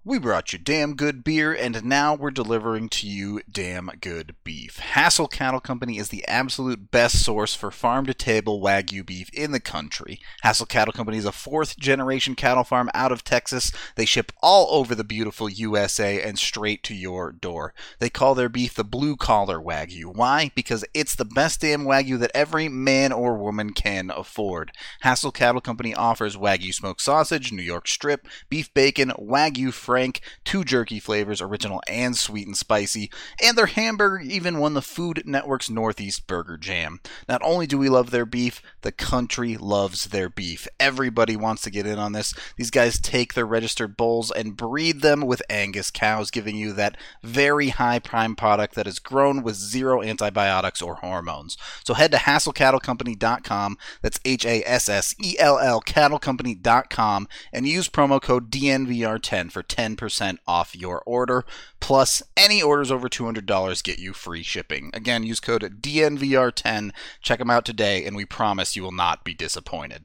We brought you damn good beer, and now we're delivering to you damn good beef. Hassel Cattle Company is the absolute best source for farm-to-table Wagyu beef in the country. Hassel Cattle Company is a fourth-generation cattle farm out of Texas. They ship all over the beautiful USA and straight to your door. They call their beef the blue-collar Wagyu. Why? Because it's the best damn Wagyu that every man or woman can afford. Hassel Cattle Company offers Wagyu smoked sausage, New York strip, beef bacon, Wagyu Frank, 2 jerky flavors, original and sweet and spicy, and their hamburger even won the Food Network's Northeast Burger Jam. Not only do we love their beef, the country loves their beef. Everybody wants to get in on this. These guys take their registered bulls and breed them with Angus cows, giving you that very high prime product that is grown with zero antibiotics or hormones. So head to HassellCattleCompany.com, that's HASSELL cattlecompany.com, and use promo code DNVR10 for 10% off your order. Plus, any orders over $200 get you free shipping. Again, use code DNVR10. Check them out today, and we promise you will not be disappointed.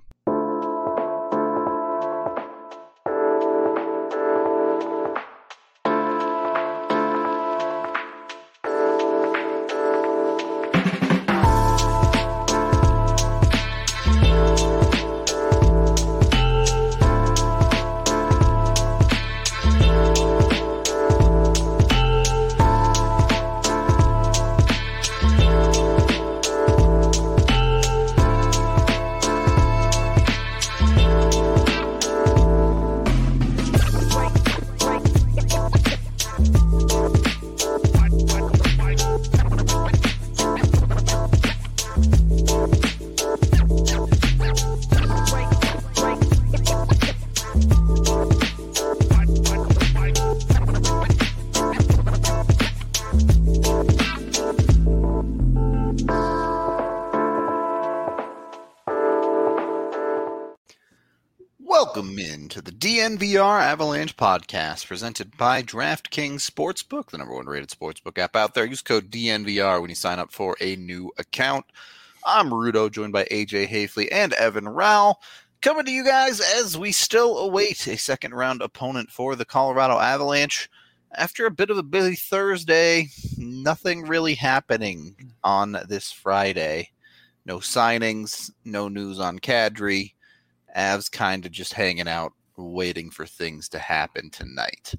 Welcome into the DNVR Avalanche podcast presented by DraftKings Sportsbook, the #1 rated sportsbook app out there. Use code DNVR when you sign up for a new account. I'm Rudo, joined by AJ Hafley and Evan Rowell, coming to you guys as we still await a second round opponent for the Colorado Avalanche. After a bit of a busy Thursday, nothing really happening on this Friday. No signings, no news on Kadri. Avs kind of just hanging out, waiting for things to happen tonight.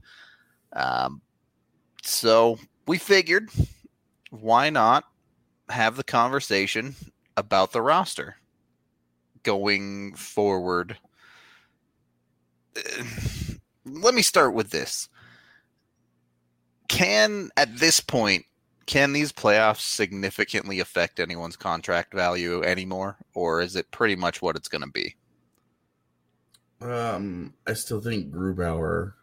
So we figured, why not have the conversation about the roster going forward? Let me start with this. At this point, can these playoffs significantly affect anyone's contract value anymore? Or is it pretty much what it's going to be? I still think Grubauer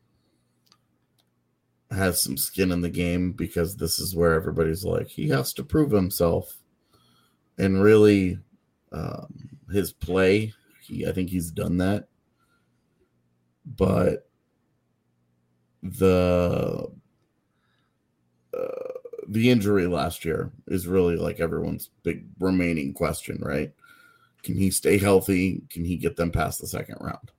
has some skin in the game because this is where everybody's like, he has to prove himself. And really, his play, I think he's done that. But the injury last year is really like everyone's big remaining question, right? Can he stay healthy? Can he get them past the second round?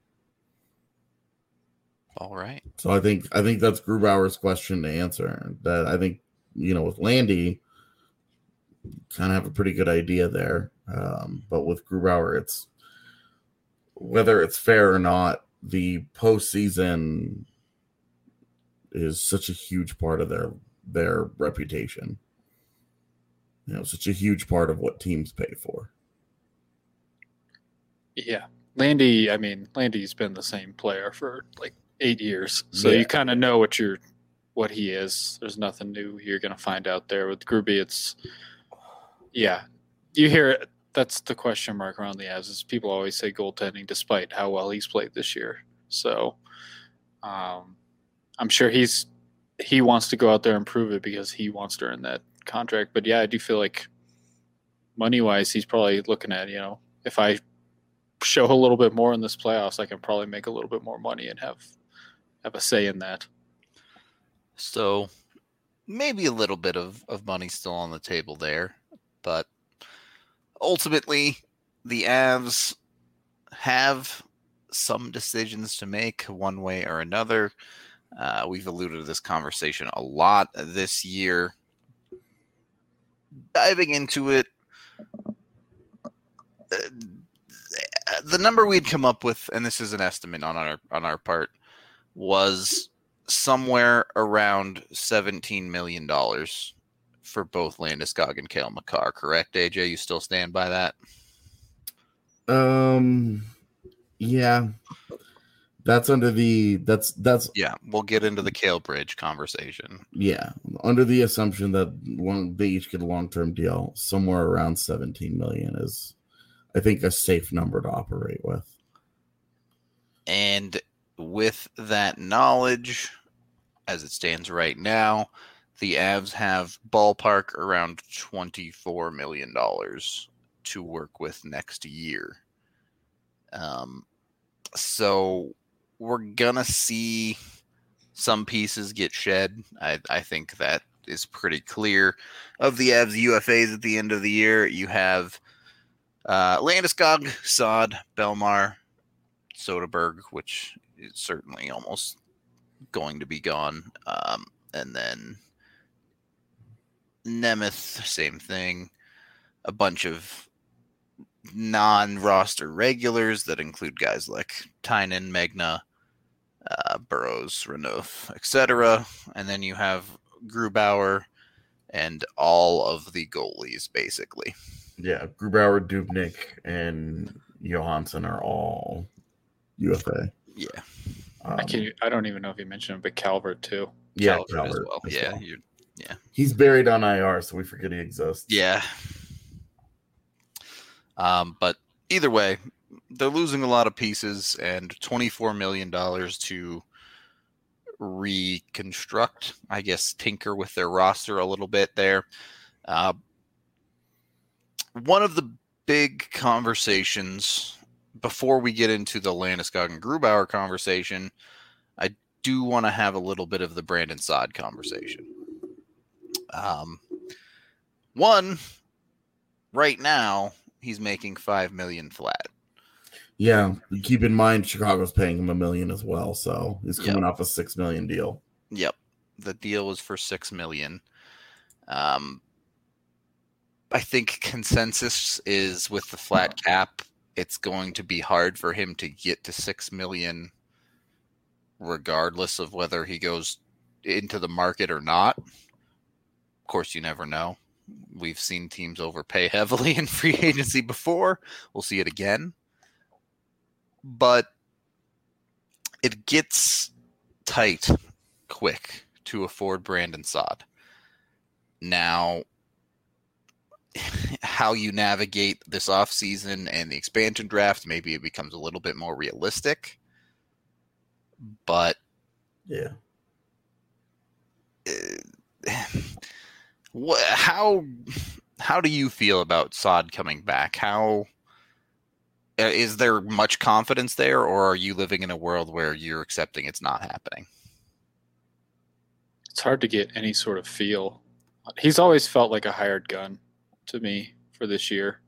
All right. So I think that's Grubauer's question to answer. That I think, with Landy, kind of have a pretty good idea there. But with Grubauer, it's whether it's fair or not, the postseason is such a huge part of their reputation. Such a huge part of what teams pay for. Yeah. Landy's been the same player for like 8 years. So You kind of know what he is. There's nothing new you're going to find out there. With Gruby, you hear it. That's the question mark around the Avs is people always say goaltending despite how well he's played this year. So I'm sure he wants to go out there and prove it because he wants to earn that contract. But yeah, I do feel like money-wise, he's probably looking at, if I show a little bit more in this playoffs, I can probably make a little bit more money and have a say in that. So maybe a little bit of money still on the table there, but ultimately the Avs have some decisions to make one way or another. We've alluded to this conversation a lot this year. Diving into it, the number we'd come up with, and this is an estimate on our part, was somewhere around $17 million for both Landeskog and Cale Makar. Correct, AJ? You still stand by that? Yeah. That's under the that's Yeah, we'll get into the Cale Bridge conversation. Yeah, under the assumption that they each get a long-term deal, somewhere around 17 million is, I think, a safe number to operate with. And with that knowledge, as it stands right now, the Avs have ballpark around $24 million to work with next year. So we're going to see some pieces get shed. I think that is pretty clear. Of the Avs UFAs at the end of the year, you have Landeskog, Saad, Belmar, Soderberg, which is certainly almost going to be gone. And then Nemeth, same thing. A bunch of non-roster regulars that include guys like Tynan, Megna, Burrows, Renouf, etc. And then you have Grubauer and all of the goalies, basically. Yeah, Grubauer, Dubnik, and Johansson are all UFA. Yeah. I don't even know if you mentioned him, but Calvert too. Yeah, Calvert as well. as Yeah, well. Yeah. He's buried on IR, so we forget he exists. Yeah. But either way, they're losing a lot of pieces, and $24 million to reconstruct, I guess, tinker with their roster a little bit there. One of the big conversations before we get into the Landeskog and Grubauer conversation, I do want to have a little bit of the Brandon Saad conversation. One, right now, he's making $5 million flat. Yeah, keep in mind Chicago's paying him $1 million as well, so he's coming off a $6 million deal. Yep, the deal was for $6 million. I think consensus is with the flat cap, it's going to be hard for him to get to $6 million, regardless of whether he goes into the market or not. Of course, you never know. We've seen teams overpay heavily in free agency before. We'll see it again. But it gets tight quick to afford Brandon Saad. Now, how you navigate this offseason and the expansion draft, maybe it becomes a little bit more realistic. But yeah. How do you feel about Saad coming back? How is there much confidence there, or are you living in a world where you're accepting it's not happening? It's hard to get any sort of feel. He's always felt like a hired gun to me for this year.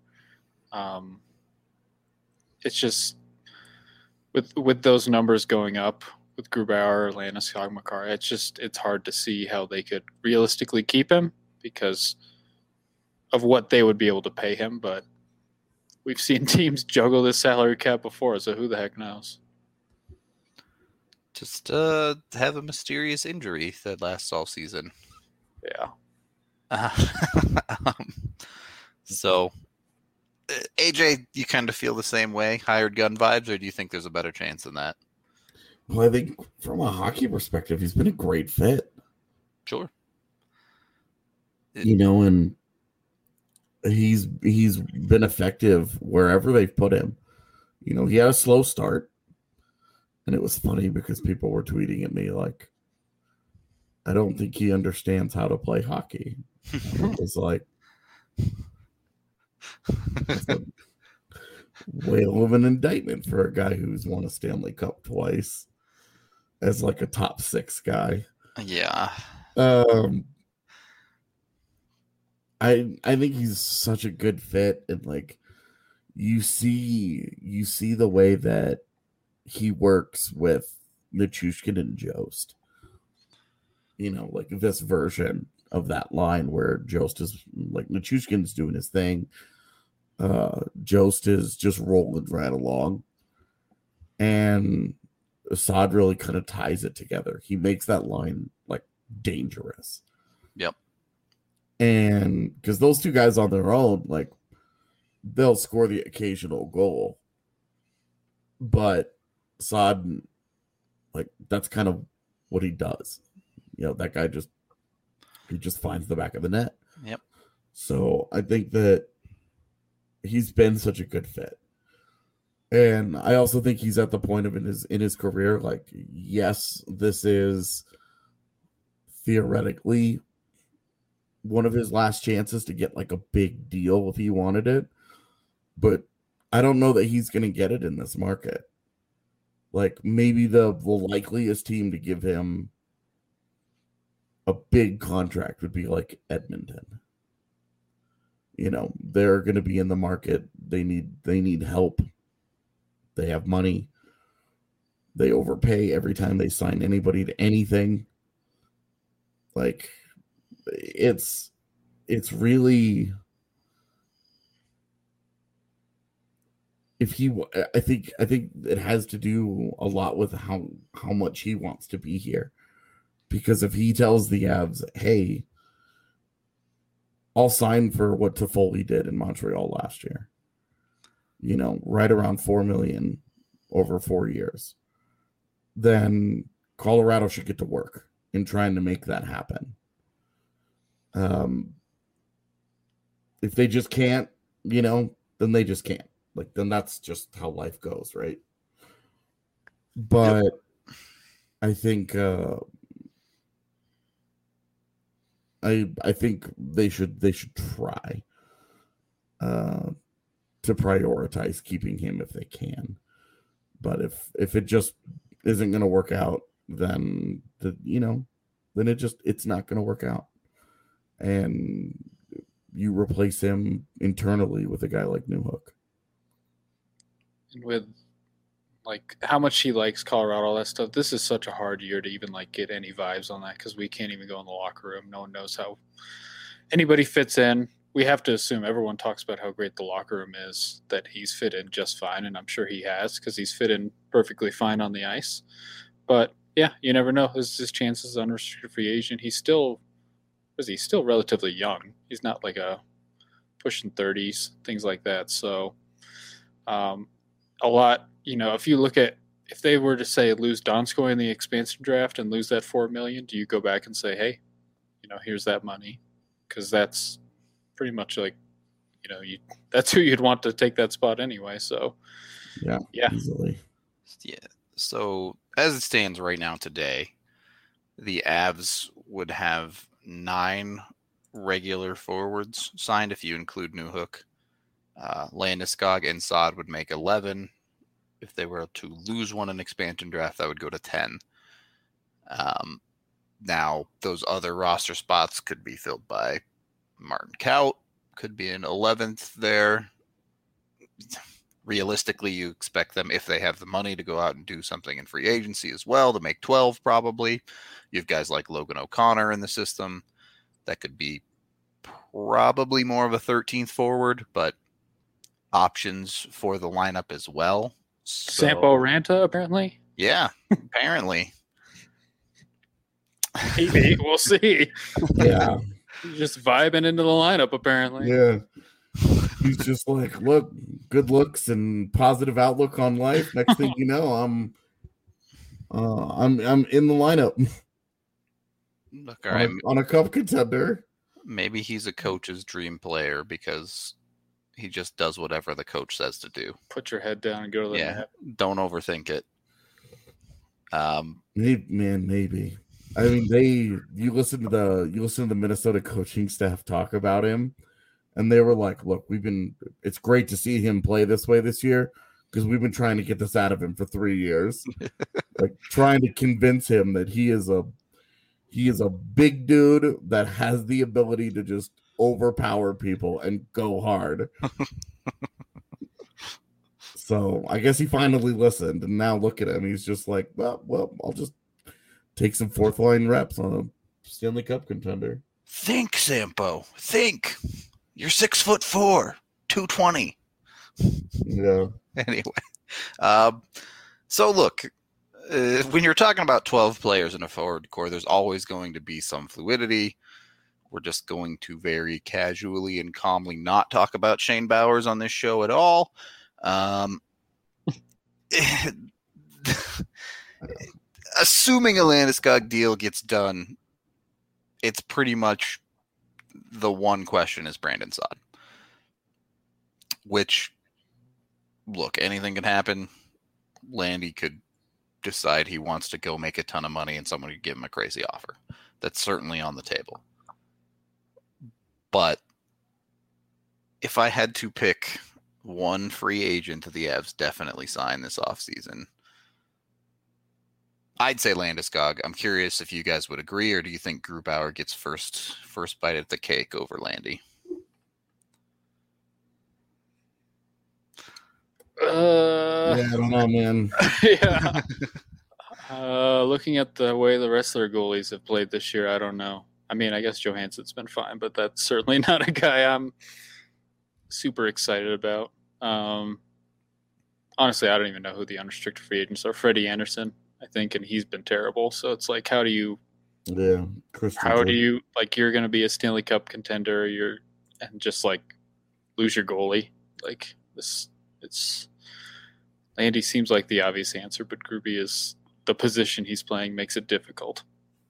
It's just with those numbers going up with Grubauer, Landeskog, Makar, it's hard to see how they could realistically keep him because of what they would be able to pay him. But we've seen teams juggle this salary cap before, so who the heck knows? Just have a mysterious injury that lasts all season. Yeah. So, AJ, you kind of feel the same way, hired gun vibes, or do you think there's a better chance than that? Well, I think from a hockey perspective, he's been a great fit. Sure. And he's been effective wherever they've put him. He had a slow start, and it was funny because people were tweeting at me like, I don't think he understands how to play hockey. It was like, whale of an indictment for a guy who's won a Stanley Cup twice as like a top 6 guy. Yeah. I think he's such a good fit, and like you see the way that he works with Nichushkin and Jost. Like this version of that line where Jost is like Nichushkin's doing his thing. Jost is just rolling right along. And Assad really kind of ties it together. He makes that line like dangerous. Yep. And because those two guys on their own, like they'll score the occasional goal. But Assad, like that's kind of what he does. That guy just finds the back of the net. Yep. So I think that he's been such a good fit. And I also think he's at the point of in his career, like, yes, this is theoretically one of his last chances to get like a big deal if he wanted it. But I don't know that he's going to get it in this market. Like maybe the likeliest team to give him a big contract would be like Edmonton. They're going to be in the market. They need help. They have money. They overpay every time they sign anybody to anything. Like it's really, I think it has to do a lot with how much he wants to be here. Because if he tells the Avs, hey, I'll sign for what Toffoli did in Montreal last year, right around $4 million over 4 years, then Colorado should get to work in trying to make that happen. If they just can't, then they just can't. Like, then that's just how life goes, right? But yep. I think I think they should try to prioritize keeping him if they can. But if it just isn't going to work out, then it's not going to work out. And you replace him internally with a guy like Newhook. And with like how much he likes Colorado, all that stuff. This is such a hard year to even like get any vibes on that because we can't even go in the locker room. No one knows how anybody fits in. We have to assume everyone talks about how great the locker room is, that he's fit in just fine, and I'm sure he has because he's fit in perfectly fine on the ice. But yeah, you never know. This is his chances as unrestricted free agent. He's still relatively young. He's not like a pushing 30s, things like that. So a lot. If you look at, if they were to say lose Donskoy in the expansion draft and lose that $4 million, do you go back and say, hey, here's that money? Because that's pretty much like, that's who you'd want to take that spot anyway. So yeah, easily. Yeah. So as it stands right now today, the Avs would have 9 regular forwards signed if you include Newhook. Landeskog and Saad would make 11. If they were to lose one in expansion draft, that would go to 10. Now, those other roster spots could be filled by Martin Kaut, could be an 11th there. Realistically, you expect them, if they have the money, to go out and do something in free agency as well, to make 12 probably. You have guys like Logan O'Connor in the system. That could be probably more of a 13th forward, but options for the lineup as well. So, Sampo Ranta, apparently? Yeah, apparently. Maybe. We'll see. Yeah. He's just vibing into the lineup, apparently. Yeah. He's just like, look, good looks and positive outlook on life. Next thing you know, I'm in the lineup. Look, all right. On a cup contender. Maybe he's a coach's dream player because he just does whatever the coach says to do. Put your head down and go to the net. Don't overthink it. Maybe. I mean, you listen to the Minnesota coaching staff talk about him, and they were like, "Look, it's great to see him play this way this year because we've been trying to get this out of him for 3 years, like trying to convince him that he is a big dude that has the ability to just overpower people and go hard." So I guess he finally listened, and now look at him. He's just like, well, I'll just take some fourth line reps on a Stanley Cup contender. Think, Sampo. Think. You're 6'4", 220. Yeah. Anyway, so look, when you're talking about 12 players in a forward core, there's always going to be some fluidity. We're just going to very casually and calmly not talk about Shane Bowers on this show at all. Assuming a Landeskog deal gets done, it's pretty much the one question is Brandon Saad. Which, look, anything can happen. Landy could decide he wants to go make a ton of money and someone could give him a crazy offer. That's certainly on the table. But if I had to pick one free agent the Avs definitely sign this offseason, I'd say Landeskog. I'm curious if you guys would agree, or do you think Grubauer gets first bite at the cake over Landy? Yeah, I don't know, man. Yeah. Looking at the way the rest of their goalies have played this year, I don't know. I mean, I guess Johansson's been fine, but that's certainly not a guy I'm super excited about. Honestly, I don't even know who the unrestricted free agents are. Freddie Anderson, I think, and he's been terrible. So it's like, how do you, you're going to be a Stanley Cup contender, and just like lose your goalie? Like this, Landy seems like the obvious answer, but Gruby is the position he's playing makes it difficult.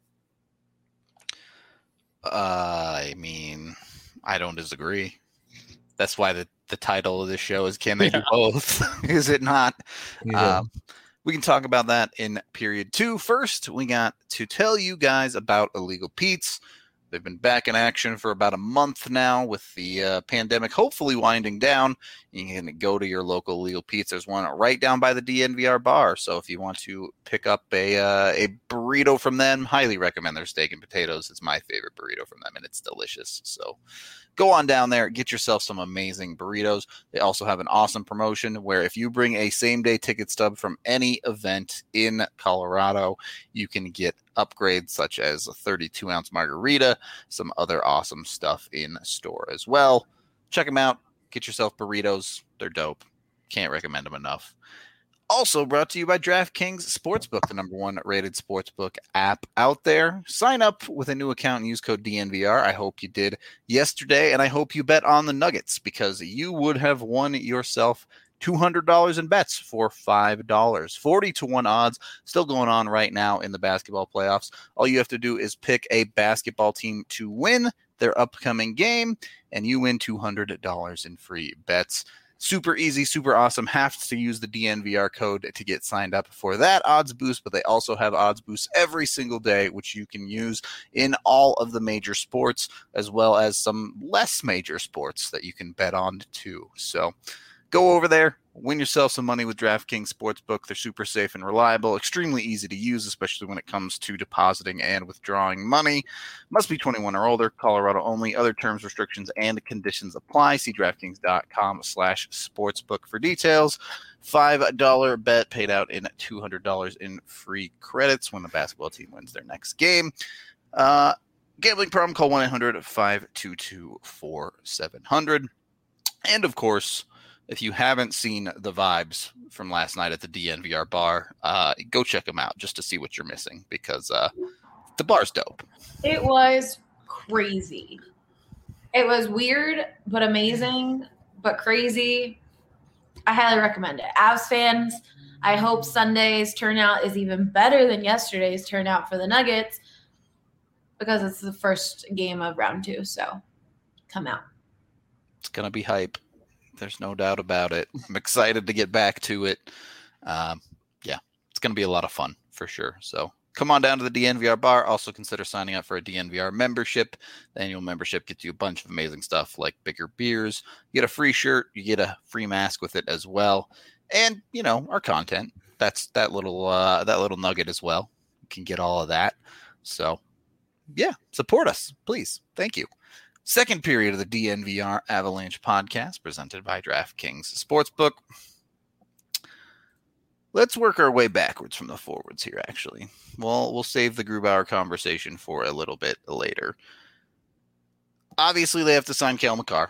I mean, I don't disagree. That's why the title of this show is Can They Do Both? Is it not? Yeah. We can talk about that in period 2. First, we got to tell you guys about Illegal Pete's. They've been back in action for about a month now with the pandemic hopefully winding down. You can go to your local Illegal Pete's. There's one right down by the DNVR bar. So if you want to pick up a burrito from them, highly recommend their steak and potatoes. It's my favorite burrito from them, and it's delicious. So go on down there, get yourself some amazing burritos. They also have an awesome promotion where if you bring a same-day ticket stub from any event in Colorado, you can get upgrades such as a 32-ounce margarita, some other awesome stuff in store as well. Check them out. Get yourself burritos. They're dope. Can't recommend them enough. Also brought to you by DraftKings Sportsbook, the #1 rated sportsbook app out there. Sign up with a new account and use code DNVR. I hope you did yesterday, and I hope you bet on the Nuggets because you would have won yourself $200 in bets for $5. 40-1 odds still going on right now in the basketball playoffs. All you have to do is pick a basketball team to win their upcoming game, and you win $200 in free bets. Super easy, super awesome. Have to use the DNVR code to get signed up for that odds boost, but they also have odds boosts every single day, which you can use in all of the major sports, as well as some less major sports that you can bet on too. So go over there, win yourself some money with DraftKings Sportsbook. They're super safe and reliable, extremely easy to use, especially when it comes to depositing and withdrawing money. Must be 21 or older, Colorado only. Other terms, restrictions, and conditions apply. See DraftKings.com/sportsbook for details. $5 bet paid out in $200 in free credits when the basketball team wins their next game. Gambling problem, call 1-800-522-4700. And of course, if you haven't seen the vibes from last night at the DNVR bar, go check them out just to see what you're missing because the bar's dope. It was crazy. It was weird, but amazing, but crazy. I highly recommend it. Avs fans, I hope Sunday's turnout is even better than yesterday's turnout for the Nuggets because it's the first game of round 2. So come out. It's going to be hype. There's no doubt about it. I'm excited to get back to it. It's going to be a lot of fun for sure. So come on down to the DNVR bar. Also consider signing up for a DNVR membership. The annual membership gets you a bunch of amazing stuff like bigger beers. You get a free shirt. You get a free mask with it as well. And, our content. That's that little nugget as well. You can get all of that. So, support us, please. Thank you. Second period of the DNVR Avalanche podcast presented by DraftKings Sportsbook. Let's work our way backwards from the forwards here, actually. Well, we'll save the Grubauer conversation for a little bit later. Obviously, they have to sign Cale Makar.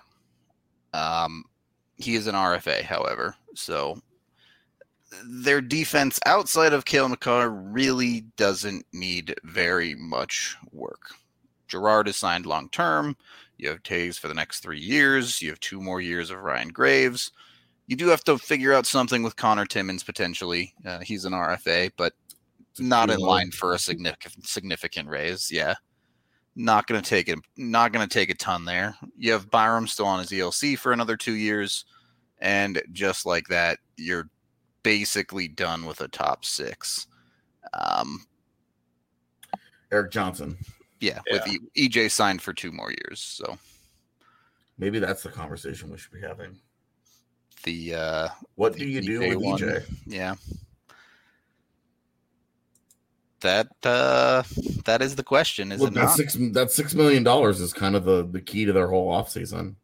He is an RFA, however, so their defense outside of Cale Makar really doesn't need very much work. Girard is signed long-term. You have Taves for the next 3 years. You have 2 more years of Ryan Graves. You do have to figure out something with Connor Timmins potentially. He's an RFA, but not in line for a significant raise. Yeah, not going to take it. Not going to take a ton there. You have Byram still on his ELC for another 2 years, and just like that, you're basically done with a top 6. Eric Johnson. Yeah, with EJ signed for 2 more years. So maybe that's the conversation we should be having. What do you do with EJ? Yeah. That is the question, is it not? That $6 million is kind of the key to their whole offseason.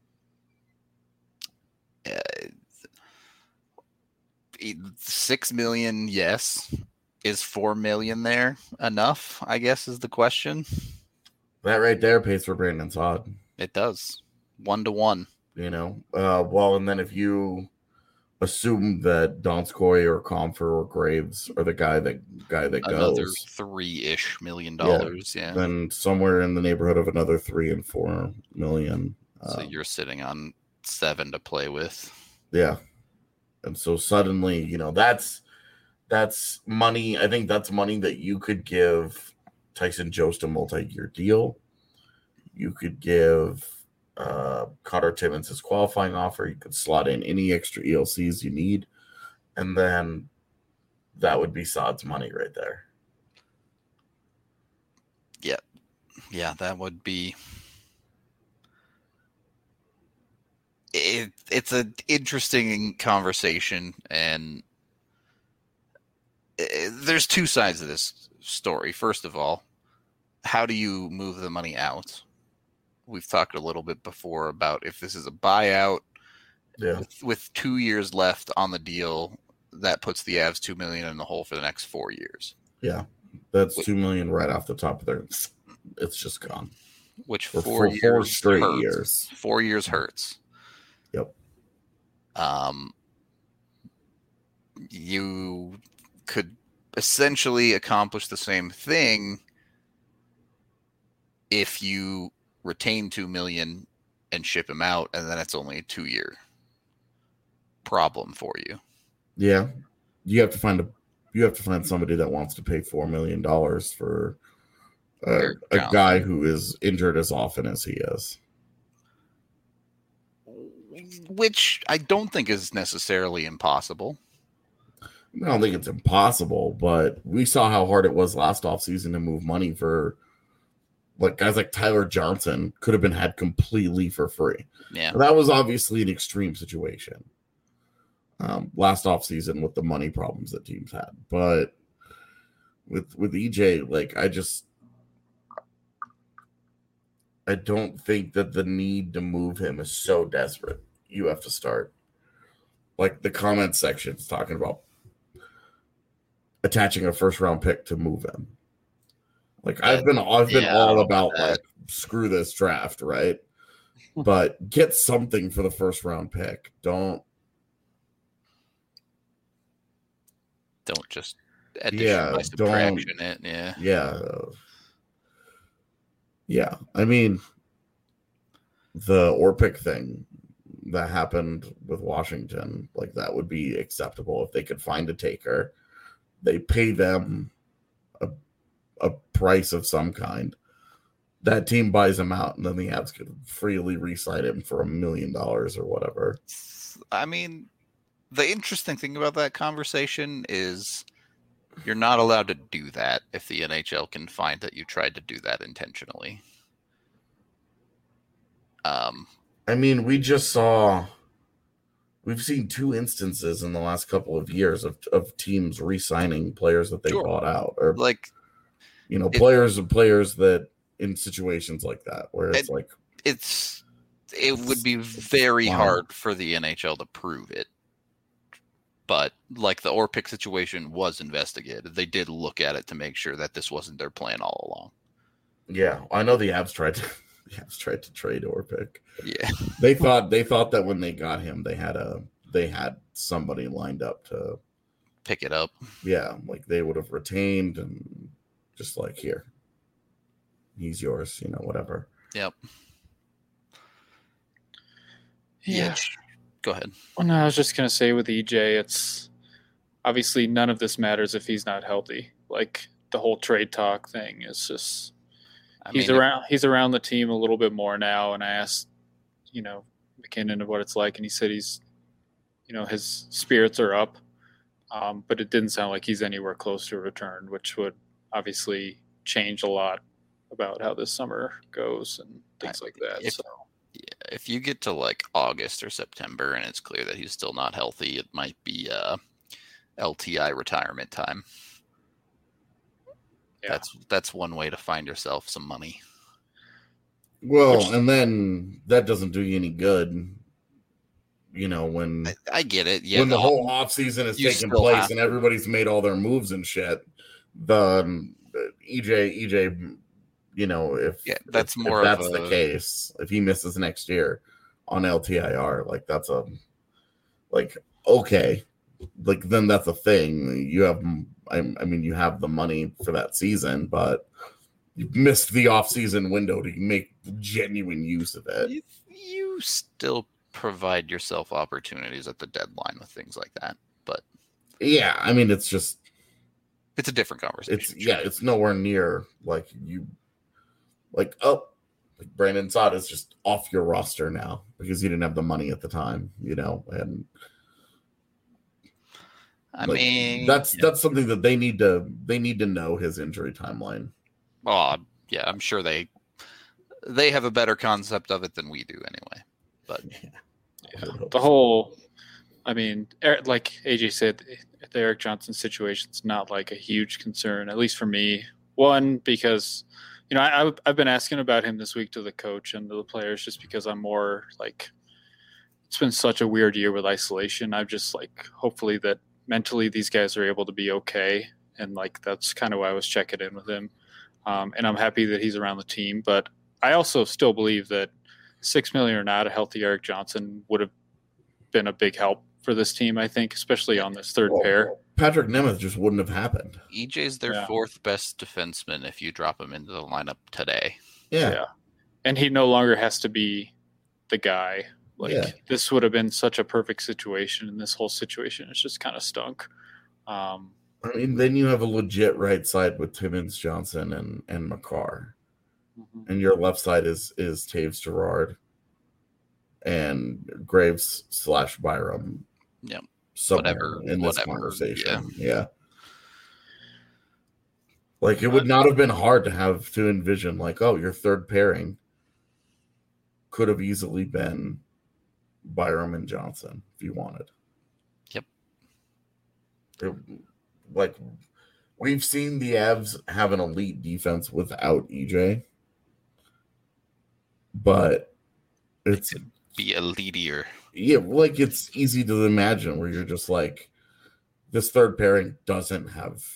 $6 million, yes. Is $4 million there enough? I guess is the question. That right there pays for Brandon Saad. It does, 1-to-1. Well, and then if you assume that Donskoy or Comfer or Graves are the guy that another goes $3-ish million, yeah. Then somewhere in the neighborhood of another 3 and 4 million. So you're sitting on 7 to play with. Yeah, and so suddenly, that's money. I think that's money that you could give Tyson Jost a multi-year deal. You could give Connor Timmins his qualifying offer. You could slot in any extra ELCs you need, and then that would be Saad's money right there. Yeah, that would be. It's an interesting conversation, and there's 2 sides of this story. First of all, how do you move the money out? We've talked a little bit before about if this is a buyout with 2 years left on the deal, that puts the Avs $2 million in the hole for the next 4 years. Yeah, that's $2 million right off the top of their. It's just gone. Which for 4 years 4 straight hurts. years. 4 years hurts. Yep. You could essentially accomplish the same thing if you retain $2 million and ship him out, and then it's only a 2-year problem for you. Yeah, you have to find somebody that wants to pay $4 million for a guy who is injured as often as he is. Which I don't think is necessarily impossible. I don't think it's impossible, but we saw how hard it was last offseason to move money for guys like Tyler Johnson could have been had completely for free. Yeah. That was obviously an extreme situation last offseason with the money problems that teams had. But with EJ, I don't think that the need to move him is so desperate. You have to start. Like the comment section's talking about attaching a first round pick to move him. I've been all about screw this draft, right? But get something for the first round pick. Don't just addition by subtraction it. Yeah. I mean, the Orpik thing that happened with Washington, that would be acceptable if they could find a taker. They pay them a price of some kind. That team buys him out, and then the Avs could freely re-sign him for $1 million or whatever. I mean, the interesting thing about that conversation is you're not allowed to do that if the NHL can find that you tried to do that intentionally. I mean, we've seen 2 instances in the last couple of years of teams re-signing players that they bought out, or players that in situations like that where it would be very hard for the NHL to prove it. But like the Orpik situation was investigated. They did look at it to make sure that this wasn't their plan all along. Yeah, I know the Avs tried to trade Orpik. Yeah. They thought that when they got him, they had somebody lined up to Pick it up. Yeah, like they would have retained and just like, here, he's yours, whatever. Yep. Yeah. Go ahead. Well, no, I was just gonna say with EJ, it's obviously none of this matters if he's not healthy. Like the whole trade talk thing is just he's around the team a little bit more now. And I asked, McKinnon of what it's like, and he said he's, his spirits are up, but it didn't sound like he's anywhere close to a return, which would obviously change a lot about how this summer goes and things like that. If you get to like August or September and it's clear that he's still not healthy, it might be LTI retirement time. Yeah. That's one way to find yourself some money. Well, and then that doesn't do you any good. When I get it. Yeah. When the whole off season is taking place and everybody's made all their moves and shit, the EJ, if that's the case, if he misses next year on LTIR, like that's okay, like then that's a thing. You have, I mean, you have the money for that season, but you missed the off-season window to make genuine use of it. You still provide yourself opportunities at the deadline with things like that, but yeah, I mean, it's a different conversation. It's nowhere near like Brandon Saad is just off your roster now because you didn't have the money at the time, and I mean that's something that they need to know his injury timeline. Oh yeah, I'm sure they have a better concept of it than we do anyway. But the whole, I mean, like AJ said, the Erik Johnson situation is not like a huge concern, at least for me. One, because I've been asking about him this week to the coach and to the players just because I'm more like, it's been such a weird year with isolation. I'm just like, hopefully that mentally these guys are able to be okay. And like, that's kind of why I was checking in with him. And I'm happy that he's around the team. But I also still believe that $6 million or not, a healthy Erik Johnson would have been a big help for this team, I think, especially on this third pair. Patrick Nemeth just wouldn't have happened. EJ's their fourth best defenseman if you drop him into the lineup today. Yeah. And he no longer has to be the guy. This would have been such a perfect situation, and this whole situation is just kind of stunk. I mean, then you have a legit right side with Timmins, Johnson, and Makar. Mm-hmm. And your left side is Taves Girard and Graves / Byram. Yeah. Whatever in this conversation. Yeah. Like it would not have been hard to envision like, oh, your third pairing could have easily been Byram and Johnson if you wanted. Yep. Like we've seen the Avs have an elite defense without EJ, but it could be elitier. Yeah, like it's easy to imagine where you're just like, this third pairing doesn't have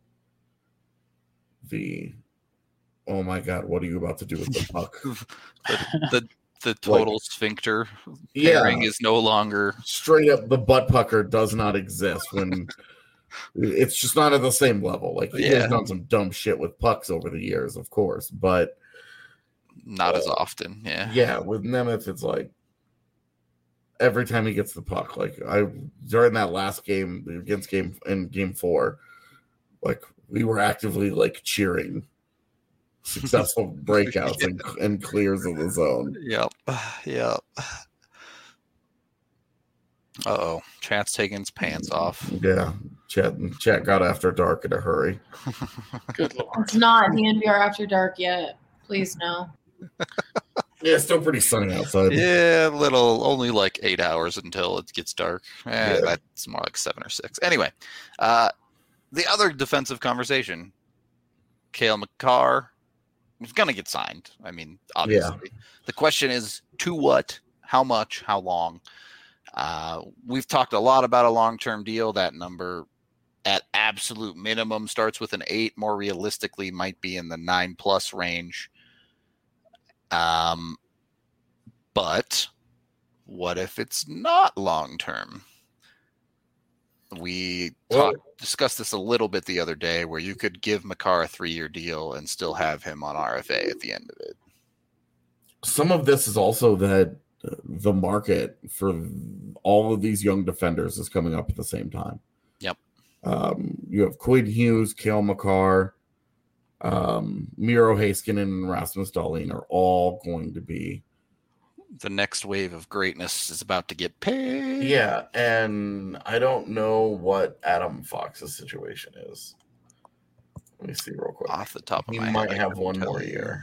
the, oh my god, what are you about to do with the puck? the total sphincter pairing is no longer straight up. The butt pucker does not exist when it's just not at the same level. Like he has done some dumb shit with pucks over the years, of course, but not as often. Yeah, with Nemeth, it's like every time he gets the puck, like during that last game against game 4, like we were actively like cheering successful breakouts and clears of the zone. Yep. Uh-oh. Chat's taking his pants off. Yeah. Chat got after dark in a hurry. Good Lord. It's not DNVR after dark yet. Please no. Yeah, it's still pretty sunny outside. Yeah, only like 8 hours until it gets dark. That's more like 7 or 6. Anyway, the other defensive conversation, Cale Makar is going to get signed. I mean, obviously. The question is, to what, how much, how long? We've talked a lot about a long-term deal. That number at absolute minimum starts with an 8. More realistically, might be in the 9+ range. But what if it's not long-term? We discussed this a little bit the other day, where you could give Makar a 3-year deal and still have him on RFA at the end of it. Some of this is also that the market for all of these young defenders is coming up at the same time. Yep. You have Quinn Hughes, Cale Makar, Miro Heiskanen, and Rasmus Dahlin are all going to be. The next wave of greatness is about to get paid. Yeah, and I don't know what Adam Fox's situation is. Let me see real quick. Off the top of he my head, might I have couldn't one tell more you. year.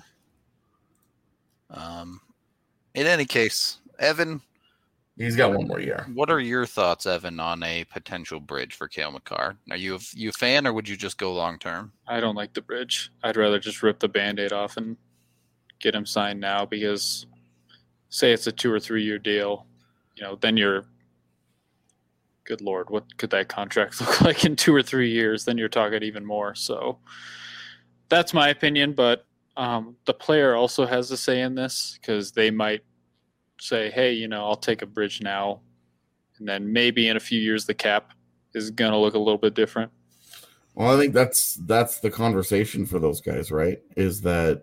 In any case, Evan, He's got one more year. what are your thoughts, Evan, on a potential bridge for Cale Makar? Are you a fan, or would you just go long term? I don't like the bridge. I'd rather just rip the Band-Aid off and get him signed now, because say it's a 2 or 3 year deal, then you're, good Lord, what could that contract look like in 2 or 3 years? Then you're talking even more. So that's my opinion, but the player also has a say in this, because they might say, hey, I'll take a bridge now, and then maybe in a few years the cap is going to look a little bit different. Well, I think that's the conversation for those guys, right? Is that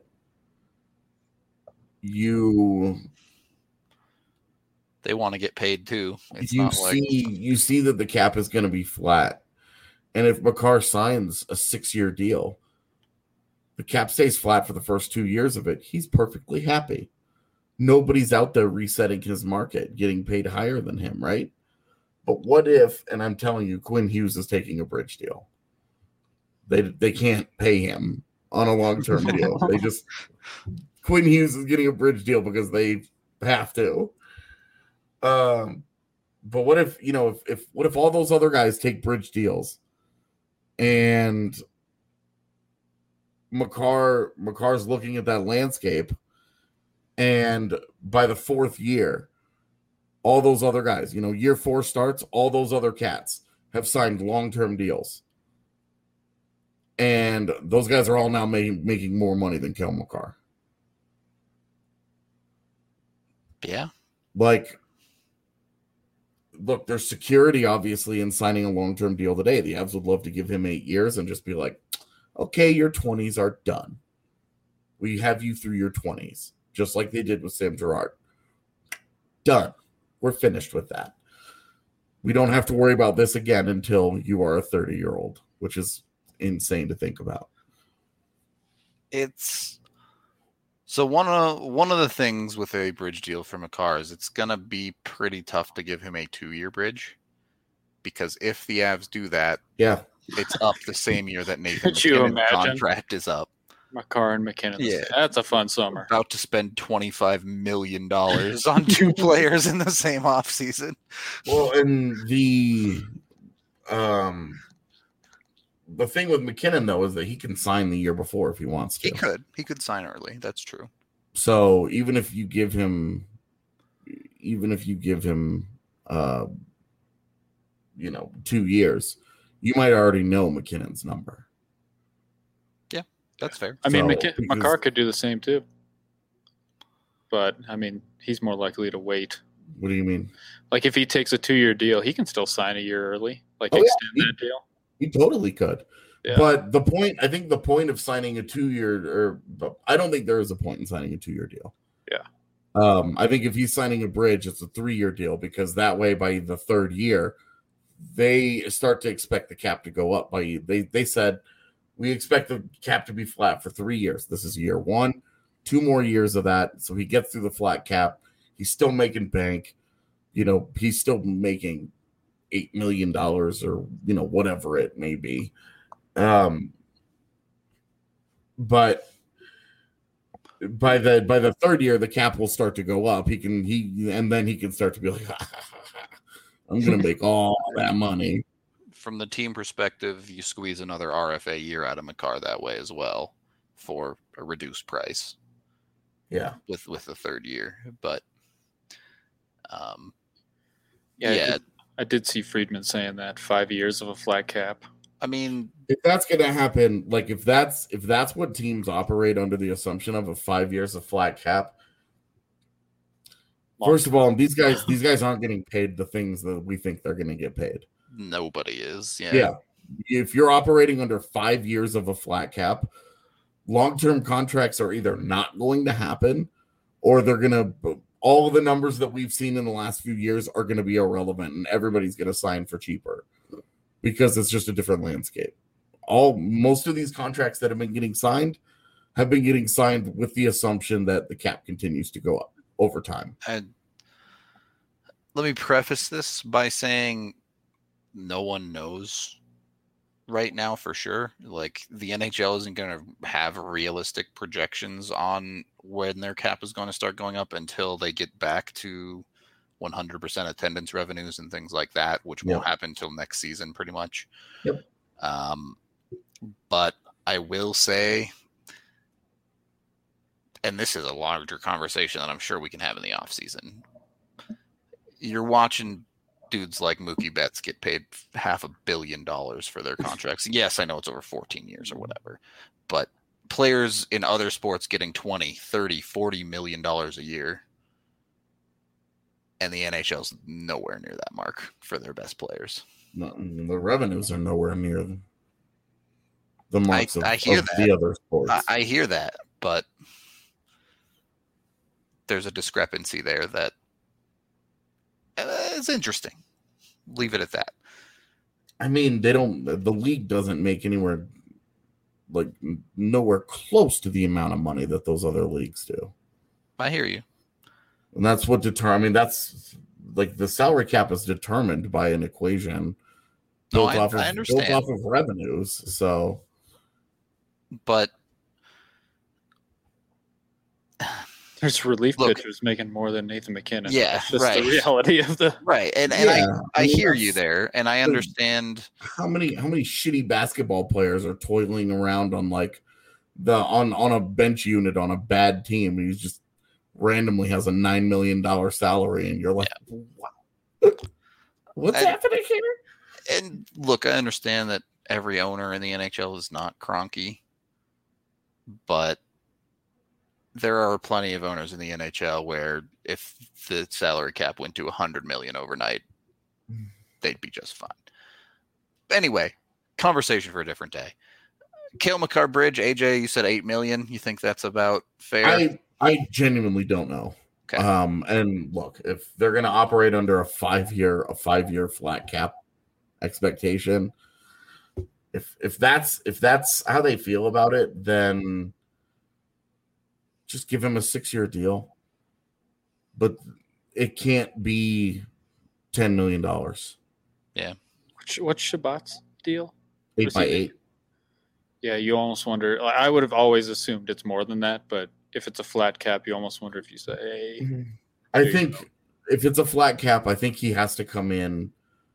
They want to get paid too. It's you not see that the cap is going to be flat, and if Makar signs a 6-year deal, the cap stays flat for the first 2 years of it. He's perfectly happy. Nobody's out there resetting his market, getting paid higher than him, right? But what if, and I'm telling you, Quinn Hughes is taking a bridge deal. They can't pay him on a long-term deal. Quinn Hughes is getting a bridge deal because they have to. But what if, what if all those other guys take bridge deals, and Makar's looking at that landscape, and by the 4th year, all those other guys, year 4 starts, all those other cats have signed long-term deals. And those guys are all now making more money than Cale Makar. Yeah. Like, look, there's security, obviously, in signing a long-term deal today. The Avs would love to give him 8 years and just be like, okay, your 20s are done. We have you through your 20s, just like they did with Sam Girard. Done. We're finished with that. We don't have to worry about this again until you are a 30-year-old, which is insane to think about. It's so one of the things with a bridge deal for Makar is it's gonna be pretty tough to give him a 2-year bridge, because if the Avs do that, Yeah. it's up the same year that Nathan Could you McKinnon's imagine? contract is up. Makar and McKinnon. Yeah. That's a fun summer. About to spend $25 million on 2 players in the same offseason. Well, and the thing with McKinnon, though, is that he can sign the year before if he wants to. He could sign early. That's true. So even if you give him 2 years, you might already know McKinnon's number. Yeah, that's fair. I mean, So, Makar could do the same too. But, I mean, he's more likely to wait. What do you mean? Like, if he takes a 2-year deal, he can still sign a year early. Like, Oh, yeah. extend that deal. He totally could. Yeah. But I think the point of signing a 2-year, I don't think there is a point in signing a 2-year deal. Yeah. I think if he's signing a bridge, it's a 3-year deal, because that way by the 3rd year, they start to expect the cap to go up. They said, we expect the cap to be flat for 3 years. This is year 1, 2 more years of that. So he gets through the flat cap. He's still making bank. He's still making $8 million or, whatever it may be. But by the 3rd year, the cap will start to go up. And then he can start to be like, I'm going to make all that money. From the team perspective, you squeeze another RFA year out of Makar that way as well for a reduced price. Yeah. With the 3rd year. But Yeah, I did see Friedman saying that 5 years of a flat cap. I mean, if that's going to happen, like if that's what teams operate under the assumption of 5 years of flat cap. First of all, these guys aren't getting paid the things that we think they're going to get paid. nobody is. Yeah. If you're operating under 5 years of a flat cap, long-term contracts are either not going to happen, or they're going to. All the numbers that we've seen in the last few years are going to be irrelevant, and everybody's going to sign for cheaper because it's just a different landscape. Most of these contracts that have been getting signed with the assumption that the cap continues to go up over time. And let me preface this by saying no one knows right now for sure. Like, the NHL isn't going to have realistic projections on when their cap is going to start going up until they get back to 100% attendance revenues and things like that, which won't happen until next season pretty much. Yep. But I will say, and this is a larger conversation that I'm sure we can have in the offseason, you're watching dudes like Mookie Betts get paid $500 million for their contracts. Yes, I know it's over 14 years or whatever, but players in other sports getting 20, 30, 40 million dollars a year, and the NHL's nowhere near that mark for their best players. No, the revenues are nowhere near the marks of the other sports. I hear that, but there's a discrepancy there that is interesting. Leave it at that. I mean, the league doesn't make nowhere close to the amount of money that those other leagues do. I hear you. And that's what that's like the salary cap is determined by an equation built off of revenues. So, but there's relief pitchers making more than Nathan McKinnon. Yeah, that's just the reality of the right. And I hear you there, and I understand how many shitty basketball players are toiling around on on a bench unit on a bad team. He's just randomly has a $9 million salary, and you're like, wow, what's happening here? And look, I understand that every owner in the NHL is not Kroenke, but there are plenty of owners in the NHL where if the salary cap went to 100 million overnight, they'd be just fine. Anyway, conversation for a different day. Cale Makar-Bridge, AJ, you said 8 million. You think that's about fair? I genuinely don't know. Okay. And look, if they're going to operate under a 5-year flat cap expectation, if that's how they feel about it, then just give him a 6-year deal. But it can't be $10 million. Yeah. What's Shabbat's deal? 8x8. Yeah, you almost wonder. I would have always assumed it's more than that, but if it's a flat cap, you almost wonder if you say, hey. I think if it's a flat cap, I think he has to come in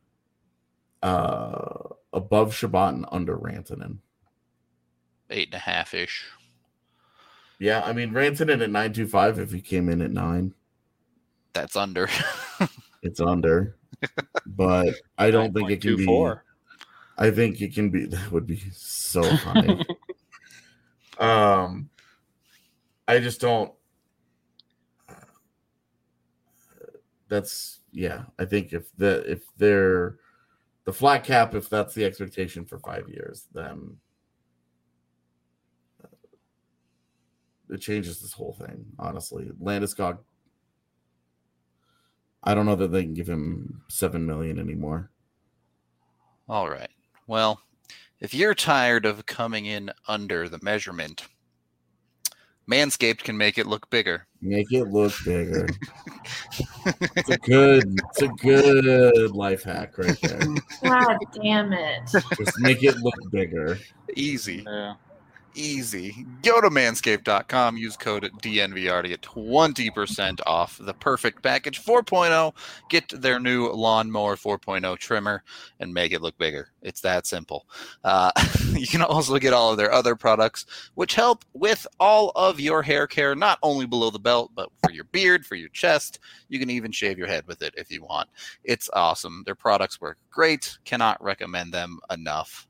above Shabbat and under Rantanen. 8.5-ish. Yeah, I mean, Rantanen at 9.25, if he came in at 9. That's under. It's under. But I don't think it can be. I think it can be. That would be so funny. I just don't. That's I think if they're the flat cap, if that's the expectation for 5 years, then it changes this whole thing. Honestly, Landeskog. I don't know that they can give him $7 million anymore. All right. Well, if you're tired of coming in under the measurement, Manscaped can make it look bigger. Make it look bigger. It's a good life hack right there. God damn it. Just make it look bigger. Easy. Yeah. Easy. Go to manscaped.com, use code DNVR to get 20% off the Perfect Package 4.0. Get their new Lawnmower 4.0 trimmer and make it look bigger. It's that simple. You can also get all of their other products, which help with all of your hair care, not only below the belt, but for your beard, for your chest. You can even shave your head with it if you want. It's awesome. Their products work great. Cannot recommend them enough.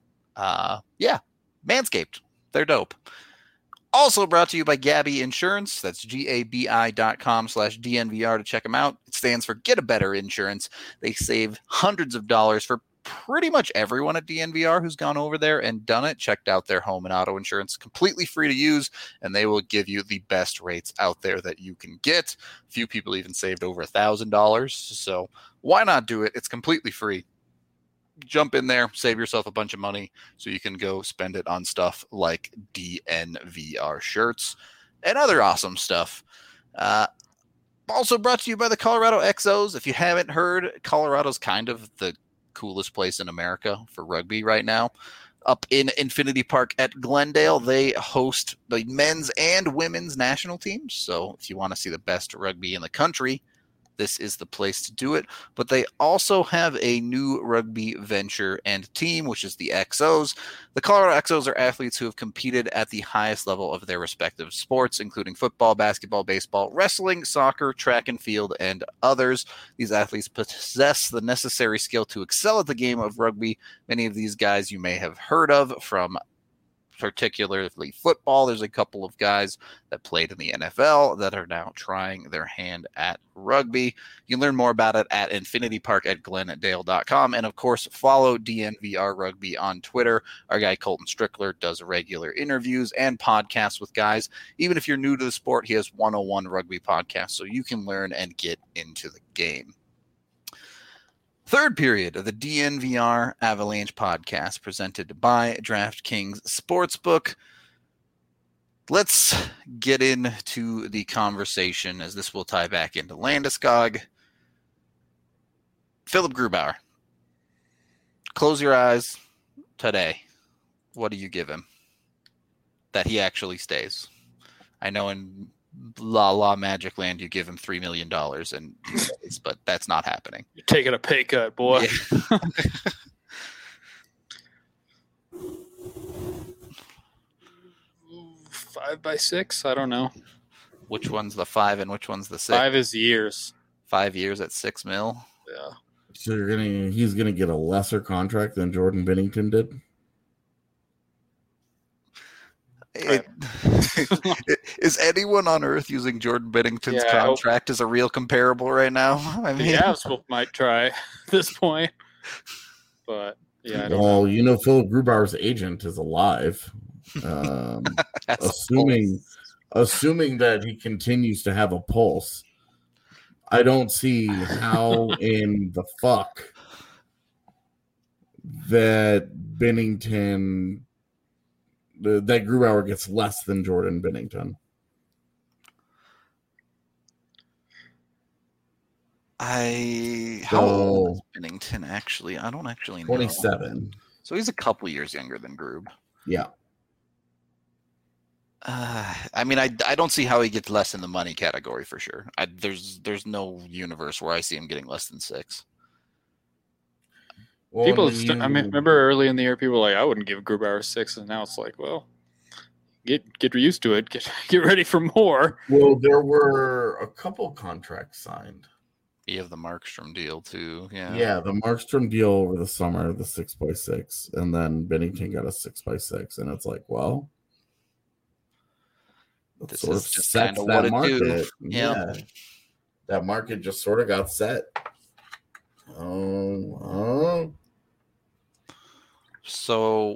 Manscaped. They're dope. Also brought to you by Gabi Insurance. That's GABI.com/DNVR to check them out. It stands for Get a Better Insurance. They save hundreds of dollars for pretty much everyone at DNVR who's gone over there and done it. Checked out their home and auto insurance. Completely free to use, and they will give you the best rates out there that you can get. A few people even saved over $1,000. So why not do it? It's completely free. Jump in there, save yourself a bunch of money so you can go spend it on stuff like DNVR shirts and other awesome stuff. Also brought to you by the Colorado XOs. If you haven't heard, Colorado's kind of the coolest place in America for rugby right now. Up in Infinity Park at Glendale, they host the men's and women's national teams. So if you want to see the best rugby in the country, this is the place to do it. But they also have a new rugby venture and team, which is the XOs. The Colorado XOs are athletes who have competed at the highest level of their respective sports, including football, basketball, baseball, wrestling, soccer, track and field, and others. These athletes possess the necessary skill to excel at the game of rugby. Many of these guys you may have heard of from particularly football. There's a couple of guys that played in the NFL that are now trying their hand at rugby. You can learn more about it at infinitypark@glendale.com. And of course, follow DNVR Rugby on Twitter. Our guy Colton Strickler does regular interviews and podcasts with guys. Even if you're new to the sport, he has 101 Rugby podcasts, so you can learn and get into the game. Third period of the DNVR Avalanche podcast presented by DraftKings Sportsbook. Let's get into the conversation as this will tie back into Landeskog. Philip Grubauer. Close your eyes today. What do you give him that he actually stays? I know in La Magic Land you give him $3 million and he stays, but that's not happening. You're taking a pay cut, boy. Yeah. 5 by 6? I don't know. Which one's the 5 and which one's the 6? 5 is years. 5 years at $6 million. Yeah. So he's gonna get a lesser contract than Jordan Binnington did. Is anyone on earth using Jordan Binnington's Yeah, contract as a real comparable right now? I mean, The Avs might try at this point. But, yeah, I don't know. Well, you know, Philip Grubauer's agent is alive. Assuming that he continues to have a pulse, I don't see how in the fuck that Binnington, that Grubauer gets less than Jordan Binnington. How old is Binnington actually? I don't actually know. 27. So he's a couple years younger than Grub. Yeah. I mean, I don't see how he gets less in the money category for sure. There's no universe where I see him getting less than 6. Well, I remember early in the year, people were like, I wouldn't give Grubauer 6, and now it's like, well, get used to it. Get ready for more. Well, there were a couple contracts signed. You have the Markstrom deal too. Yeah, the Markstrom deal over the summer, the 6x6, and then Binnington got a 6x6, and it's like, well, This sort is of just sets kinda what that it market. do. Yeah, that market just sort of got set. Oh. So,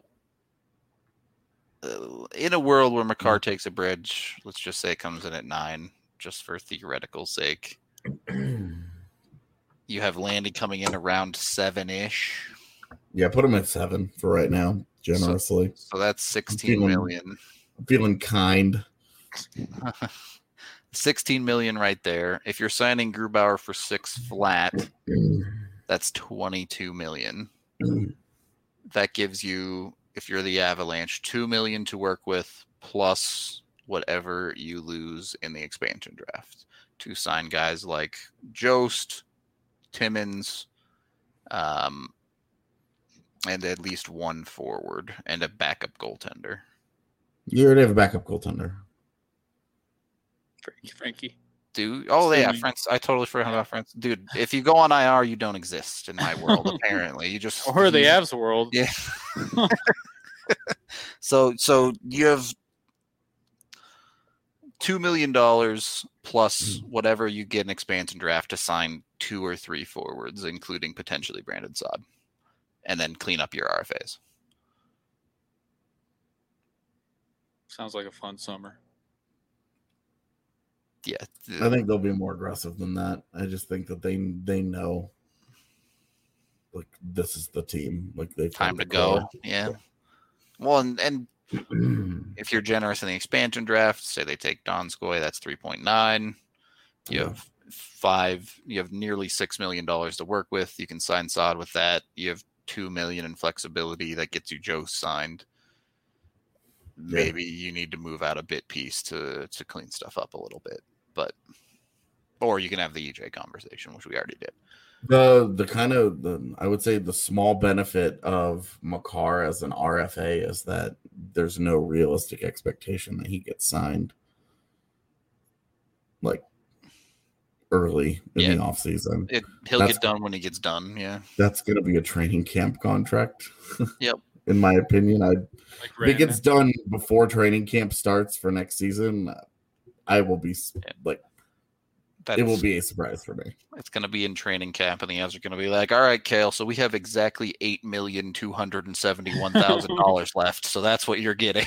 in a world where Makar takes a bridge, let's just say it comes in at 9, just for theoretical sake. You have Landy coming in around 7-ish. Yeah, put him at 7 for right now, generously. So that's 16 million. I'm feeling kind. 16 million right there. If you're signing Grubauer for 6 flat, that's 22 million. That gives you if you're the Avalanche, $2 million to work with plus whatever you lose in the expansion draft to sign guys like Jost, Timmins, and at least one forward and a backup goaltender. You already have a backup goaltender. Frankie. Dude, France. I totally forgot about France. Dude, if you go on IR, you don't exist in my world. Apparently, you just or the Avs world. Yeah. So you have $2 million plus whatever you get in expansion draft to sign 2 or 3 forwards, including potentially Brandon Saad, and then clean up your RFAs. Sounds like a fun summer. Yeah, I think they'll be more aggressive than that. I just think that they know, like, this is the team. Like, they've time to go. Yeah. Well, and if you're generous in the expansion draft, say they take Donskoy, that's 3.9. You have 5. You have nearly $6 million to work with. You can sign Saad with that. You have $2 million in flexibility that gets you Joe signed. Maybe you need to move out a bit piece to clean stuff up a little bit, or you can have the EJ conversation, which we already did. The kind of I would say the small benefit of Makar as an RFA is that there's no realistic expectation that he gets signed like early in the offseason. He'll get done when he gets done. Yeah, that's going to be a training camp contract. Yep. In my opinion, if it gets done before training camp starts for next season, I will be it will be a surprise for me. It's going to be in training camp, and the Avs are going to be like, "All right, Kale, so we have exactly $8,271,000 left, so that's what you're getting."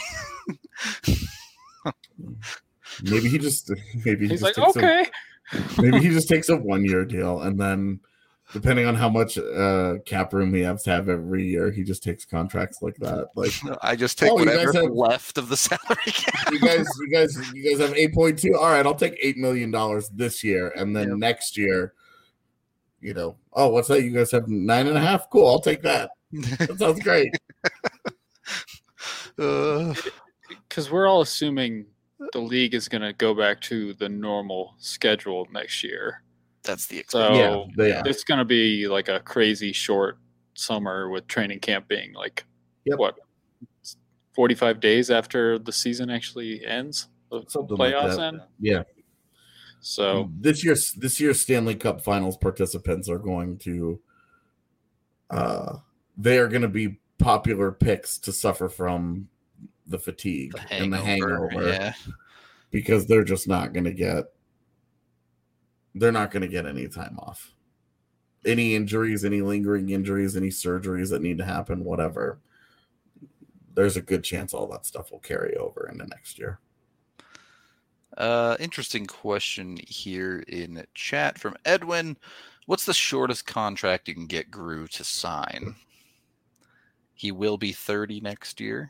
Maybe he just takes okay. Maybe he just takes a 1-year deal, and then, depending on how much cap room he has to have every year, he just takes contracts like that. Like, I just take whatever left of the salary cap. You guys have 8.2. All right, I'll take $8 million this year, and then next year, what's that? You guys have 9.5. Cool, I'll take that. That sounds great. Because we're all assuming the league is going to go back to the normal schedule next year. That's the expectation. So it's going to be like a crazy short summer with training camp being like, 45 days after the season actually ends? The playoffs end? Yeah. So this year's Stanley Cup Finals participants are going to they are going to be popular picks to suffer from the fatigue and the hangover. Because they're just not going to get any time off. Any injuries, any lingering injuries, any surgeries that need to happen, whatever. There's a good chance all that stuff will carry over into next year. Interesting question here in chat from Edwin. What's the shortest contract you can get Gru to sign? He will be 30 next year.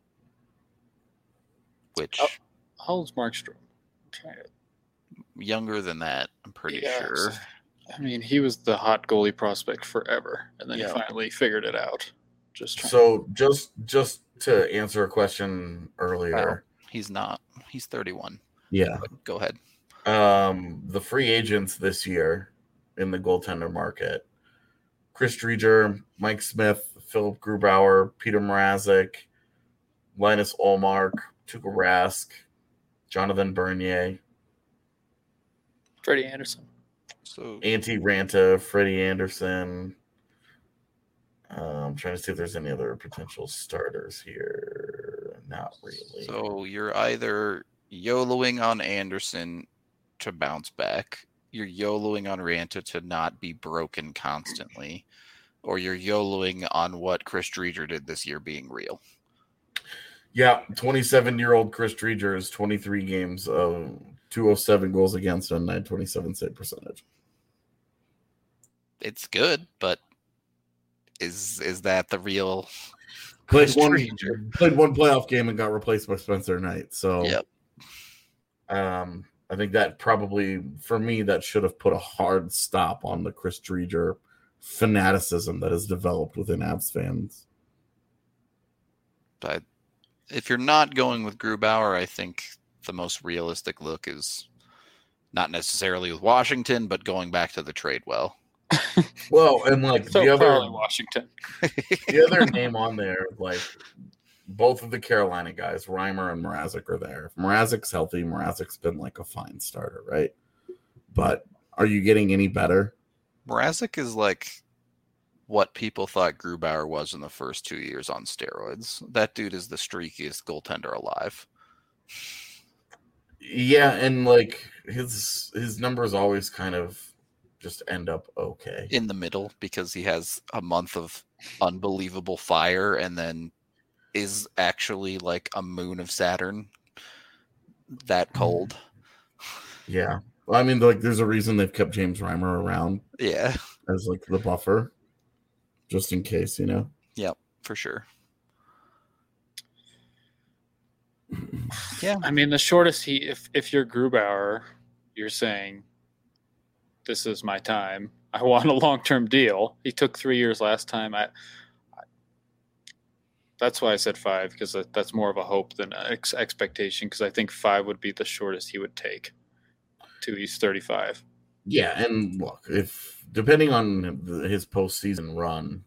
Which... How old's Markstrom? Younger than that, I'm pretty sure. I mean, he was the hot goalie prospect forever, and then he finally figured it out. Just to answer a question earlier. He's not. He's 31. Yeah. But go ahead. The free agents this year in the goaltender market: Chris Driedger, Mike Smith, Philip Grubauer, Peter Mrazek, Linus Ullmark, Tuukka Rask, Jonathan Bernier, Freddie Anderson. So Antti Ranta, Freddie Anderson. I'm trying to see if there's any other potential starters here. Not really. So you're either YOLOing on Anderson to bounce back, you're YOLOing on Ranta to not be broken constantly, or you're YOLOing on what Chris Driedger did this year being real. Yeah, 27-year-old Chris Driedger is 23 games of 207 goals against and 927 save percentage. It's good, but is that the real played one playoff game and got replaced by Spencer Knight? So I think that probably, for me, that should have put a hard stop on the Chris Driedger fanaticism that has developed within Avs fans. But if you're not going with Grubauer, I think the most realistic look is not necessarily with Washington, but going back to the trade well. Well, and like So the other probably Washington. the other name on there, like both of the Carolina guys, Reimer and Mrazek, are there. If Mrazek's healthy, Mrazek's been like a fine starter, right? But are you getting any better? Mrazek is like what people thought Grubauer was in the first 2 years on steroids. That dude is the streakiest goaltender alive. Yeah, and like his numbers always kind of just end up okay. In the middle, because he has a month of unbelievable fire and then is actually like a moon of Saturn that cold. Yeah. Well, I mean, like, there's a reason they've kept James Reimer around Yeah. as like the buffer, just in case, you know. Yep, for sure. Yeah. I mean, the shortest if you're Grubauer, you're saying, this is my time. I want a long-term deal. He took 3 years last time. That's why I said 5, because that's more of a hope than an expectation, because I think 5 would be the shortest he would take till he's 35. Yeah, and look, if depending on his postseason run,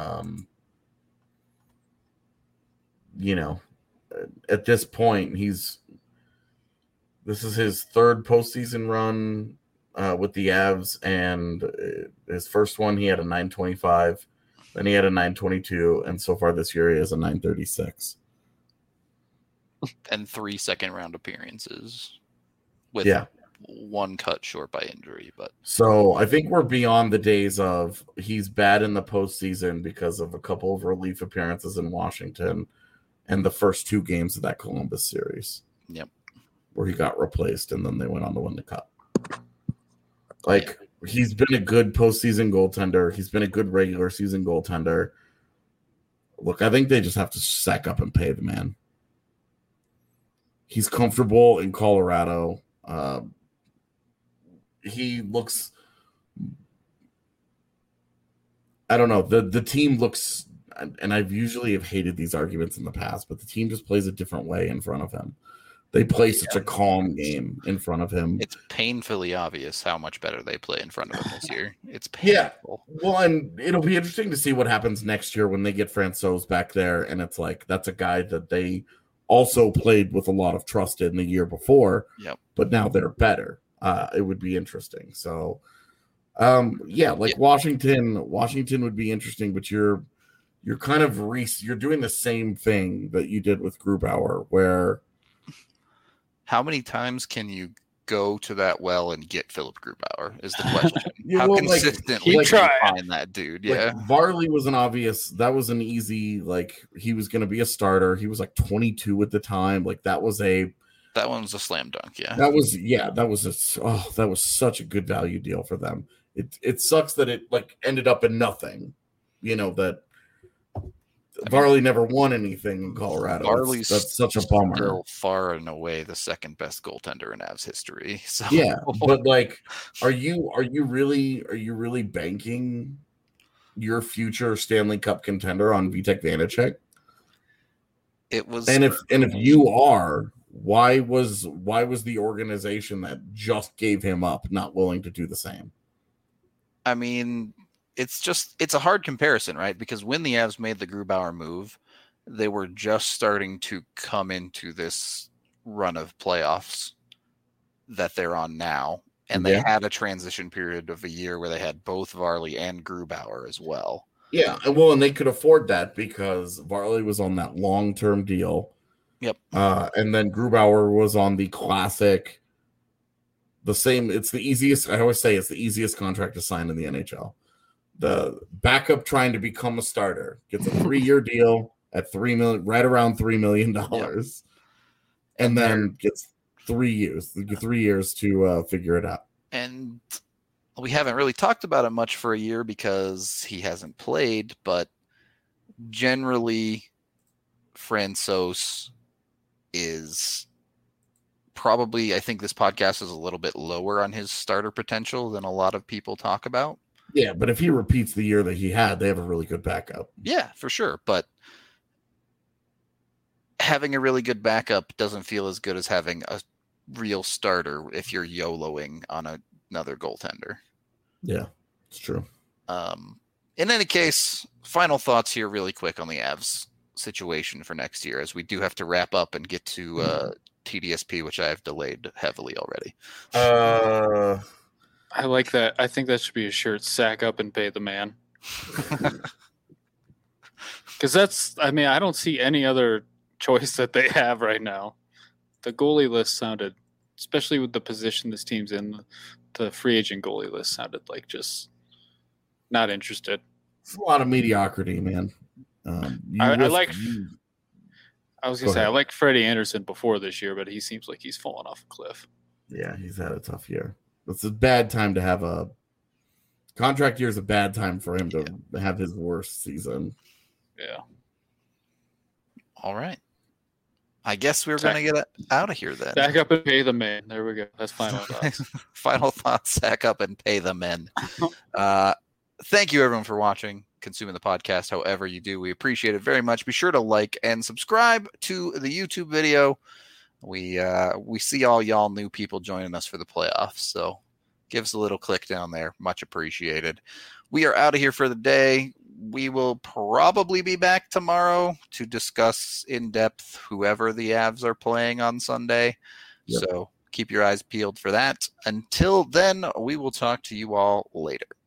you know, at this point, this is his third postseason run with the Avs, and his first one he had a 925, then he had a 922, and so far this year he has a 936. And 3 second-round appearances with one cut short by injury. But so I think we're beyond the days of he's bad in the postseason because of a couple of relief appearances in Washington and the first 2 games of that Columbus series. Yep. Where he got replaced and then they went on to win the cup. Like, he's been a good postseason goaltender. He's been a good regular season goaltender. Look, I think they just have to sack up and pay the man. He's comfortable in Colorado. He looks, I don't know, the team looks, and I've usually have hated these arguments in the past, but the team just plays a different way in front of him. They play such a calm game in front of him. It's painfully obvious how much better they play in front of him this year. It's painful. Yeah. Well, and it'll be interesting to see what happens next year when they get Francouz back there, and it's like that's a guy that they also played with a lot of trust in the year before. Yep. But now they're better. It would be interesting. So, Washington would be interesting, but you're kind of you're doing the same thing that you did with Grubauer, where. How many times can you go to that well and get Philip Grubauer is the question. Yeah, How well, consistently like, can you find that dude? Yeah. Like, Varley was that was an easy, like, he was going to be a starter. He was like 22 at the time. Like, that one was a slam dunk. Yeah. That was such a good value deal for them. It sucks that it like ended up in nothing, that Varley never won anything in Colorado. Varley's that's such a bummer. Still far and away the second best goaltender in Avs history. So yeah, but like, are you really banking your future Stanley Cup contender on Vitek Vanacek? It was, and if you are, why was the organization that just gave him up not willing to do the same? I mean, it's a hard comparison, right? Because when the Avs made the Grubauer move, they were just starting to come into this run of playoffs that they're on now. And they had a transition period of a year where they had both Varley and Grubauer as well. Yeah, well, and they could afford that because Varley was on that long-term deal. Yep. And then Grubauer was on the classic, it's the easiest, I always say it's the easiest contract to sign in the NHL. The backup trying to become a starter gets a 3-year deal at $3 million, right around $3 million, and then gets 3 years to figure it out. And we haven't really talked about it much for a year because he hasn't played, but generally, Francouz is probably, I think this podcast is a little bit lower on his starter potential than a lot of people talk about. Yeah, but if he repeats the year that he had, they have a really good backup. Yeah, for sure. But having a really good backup doesn't feel as good as having a real starter if you're YOLOing on another goaltender. Yeah, it's true. In any case, final thoughts here really quick on the Avs situation for next year, as we do have to wrap up and get to TDSP, which I have delayed heavily already. I like that. I think that should be a shirt. Sack up and pay the man. Because I don't see any other choice that they have right now. The goalie list sounded, especially with the position this team's in, the free agent goalie list sounded like just not interested. It's a lot of mediocrity, man. I like Freddie Anderson before this year, but he seems like he's fallen off a cliff. Yeah, he's had a tough year. It's a bad time to have a contract year. Is a bad time for him to have his worst season. Yeah. All right. I guess we're going to get out of here then. Sack up and pay the men. There we go. That's final thoughts. Final thoughts, sack up and pay the men. Thank you, everyone, for watching, consuming the podcast however you do. We appreciate it very much. Be sure to like and subscribe to the YouTube video. We see all y'all new people joining us for the playoffs, so give us a little click down there. Much appreciated. We are out of here for the day. We will probably be back tomorrow to discuss in depth whoever the Avs are playing on Sunday. Yep. So keep your eyes peeled for that. Until then, we will talk to you all later.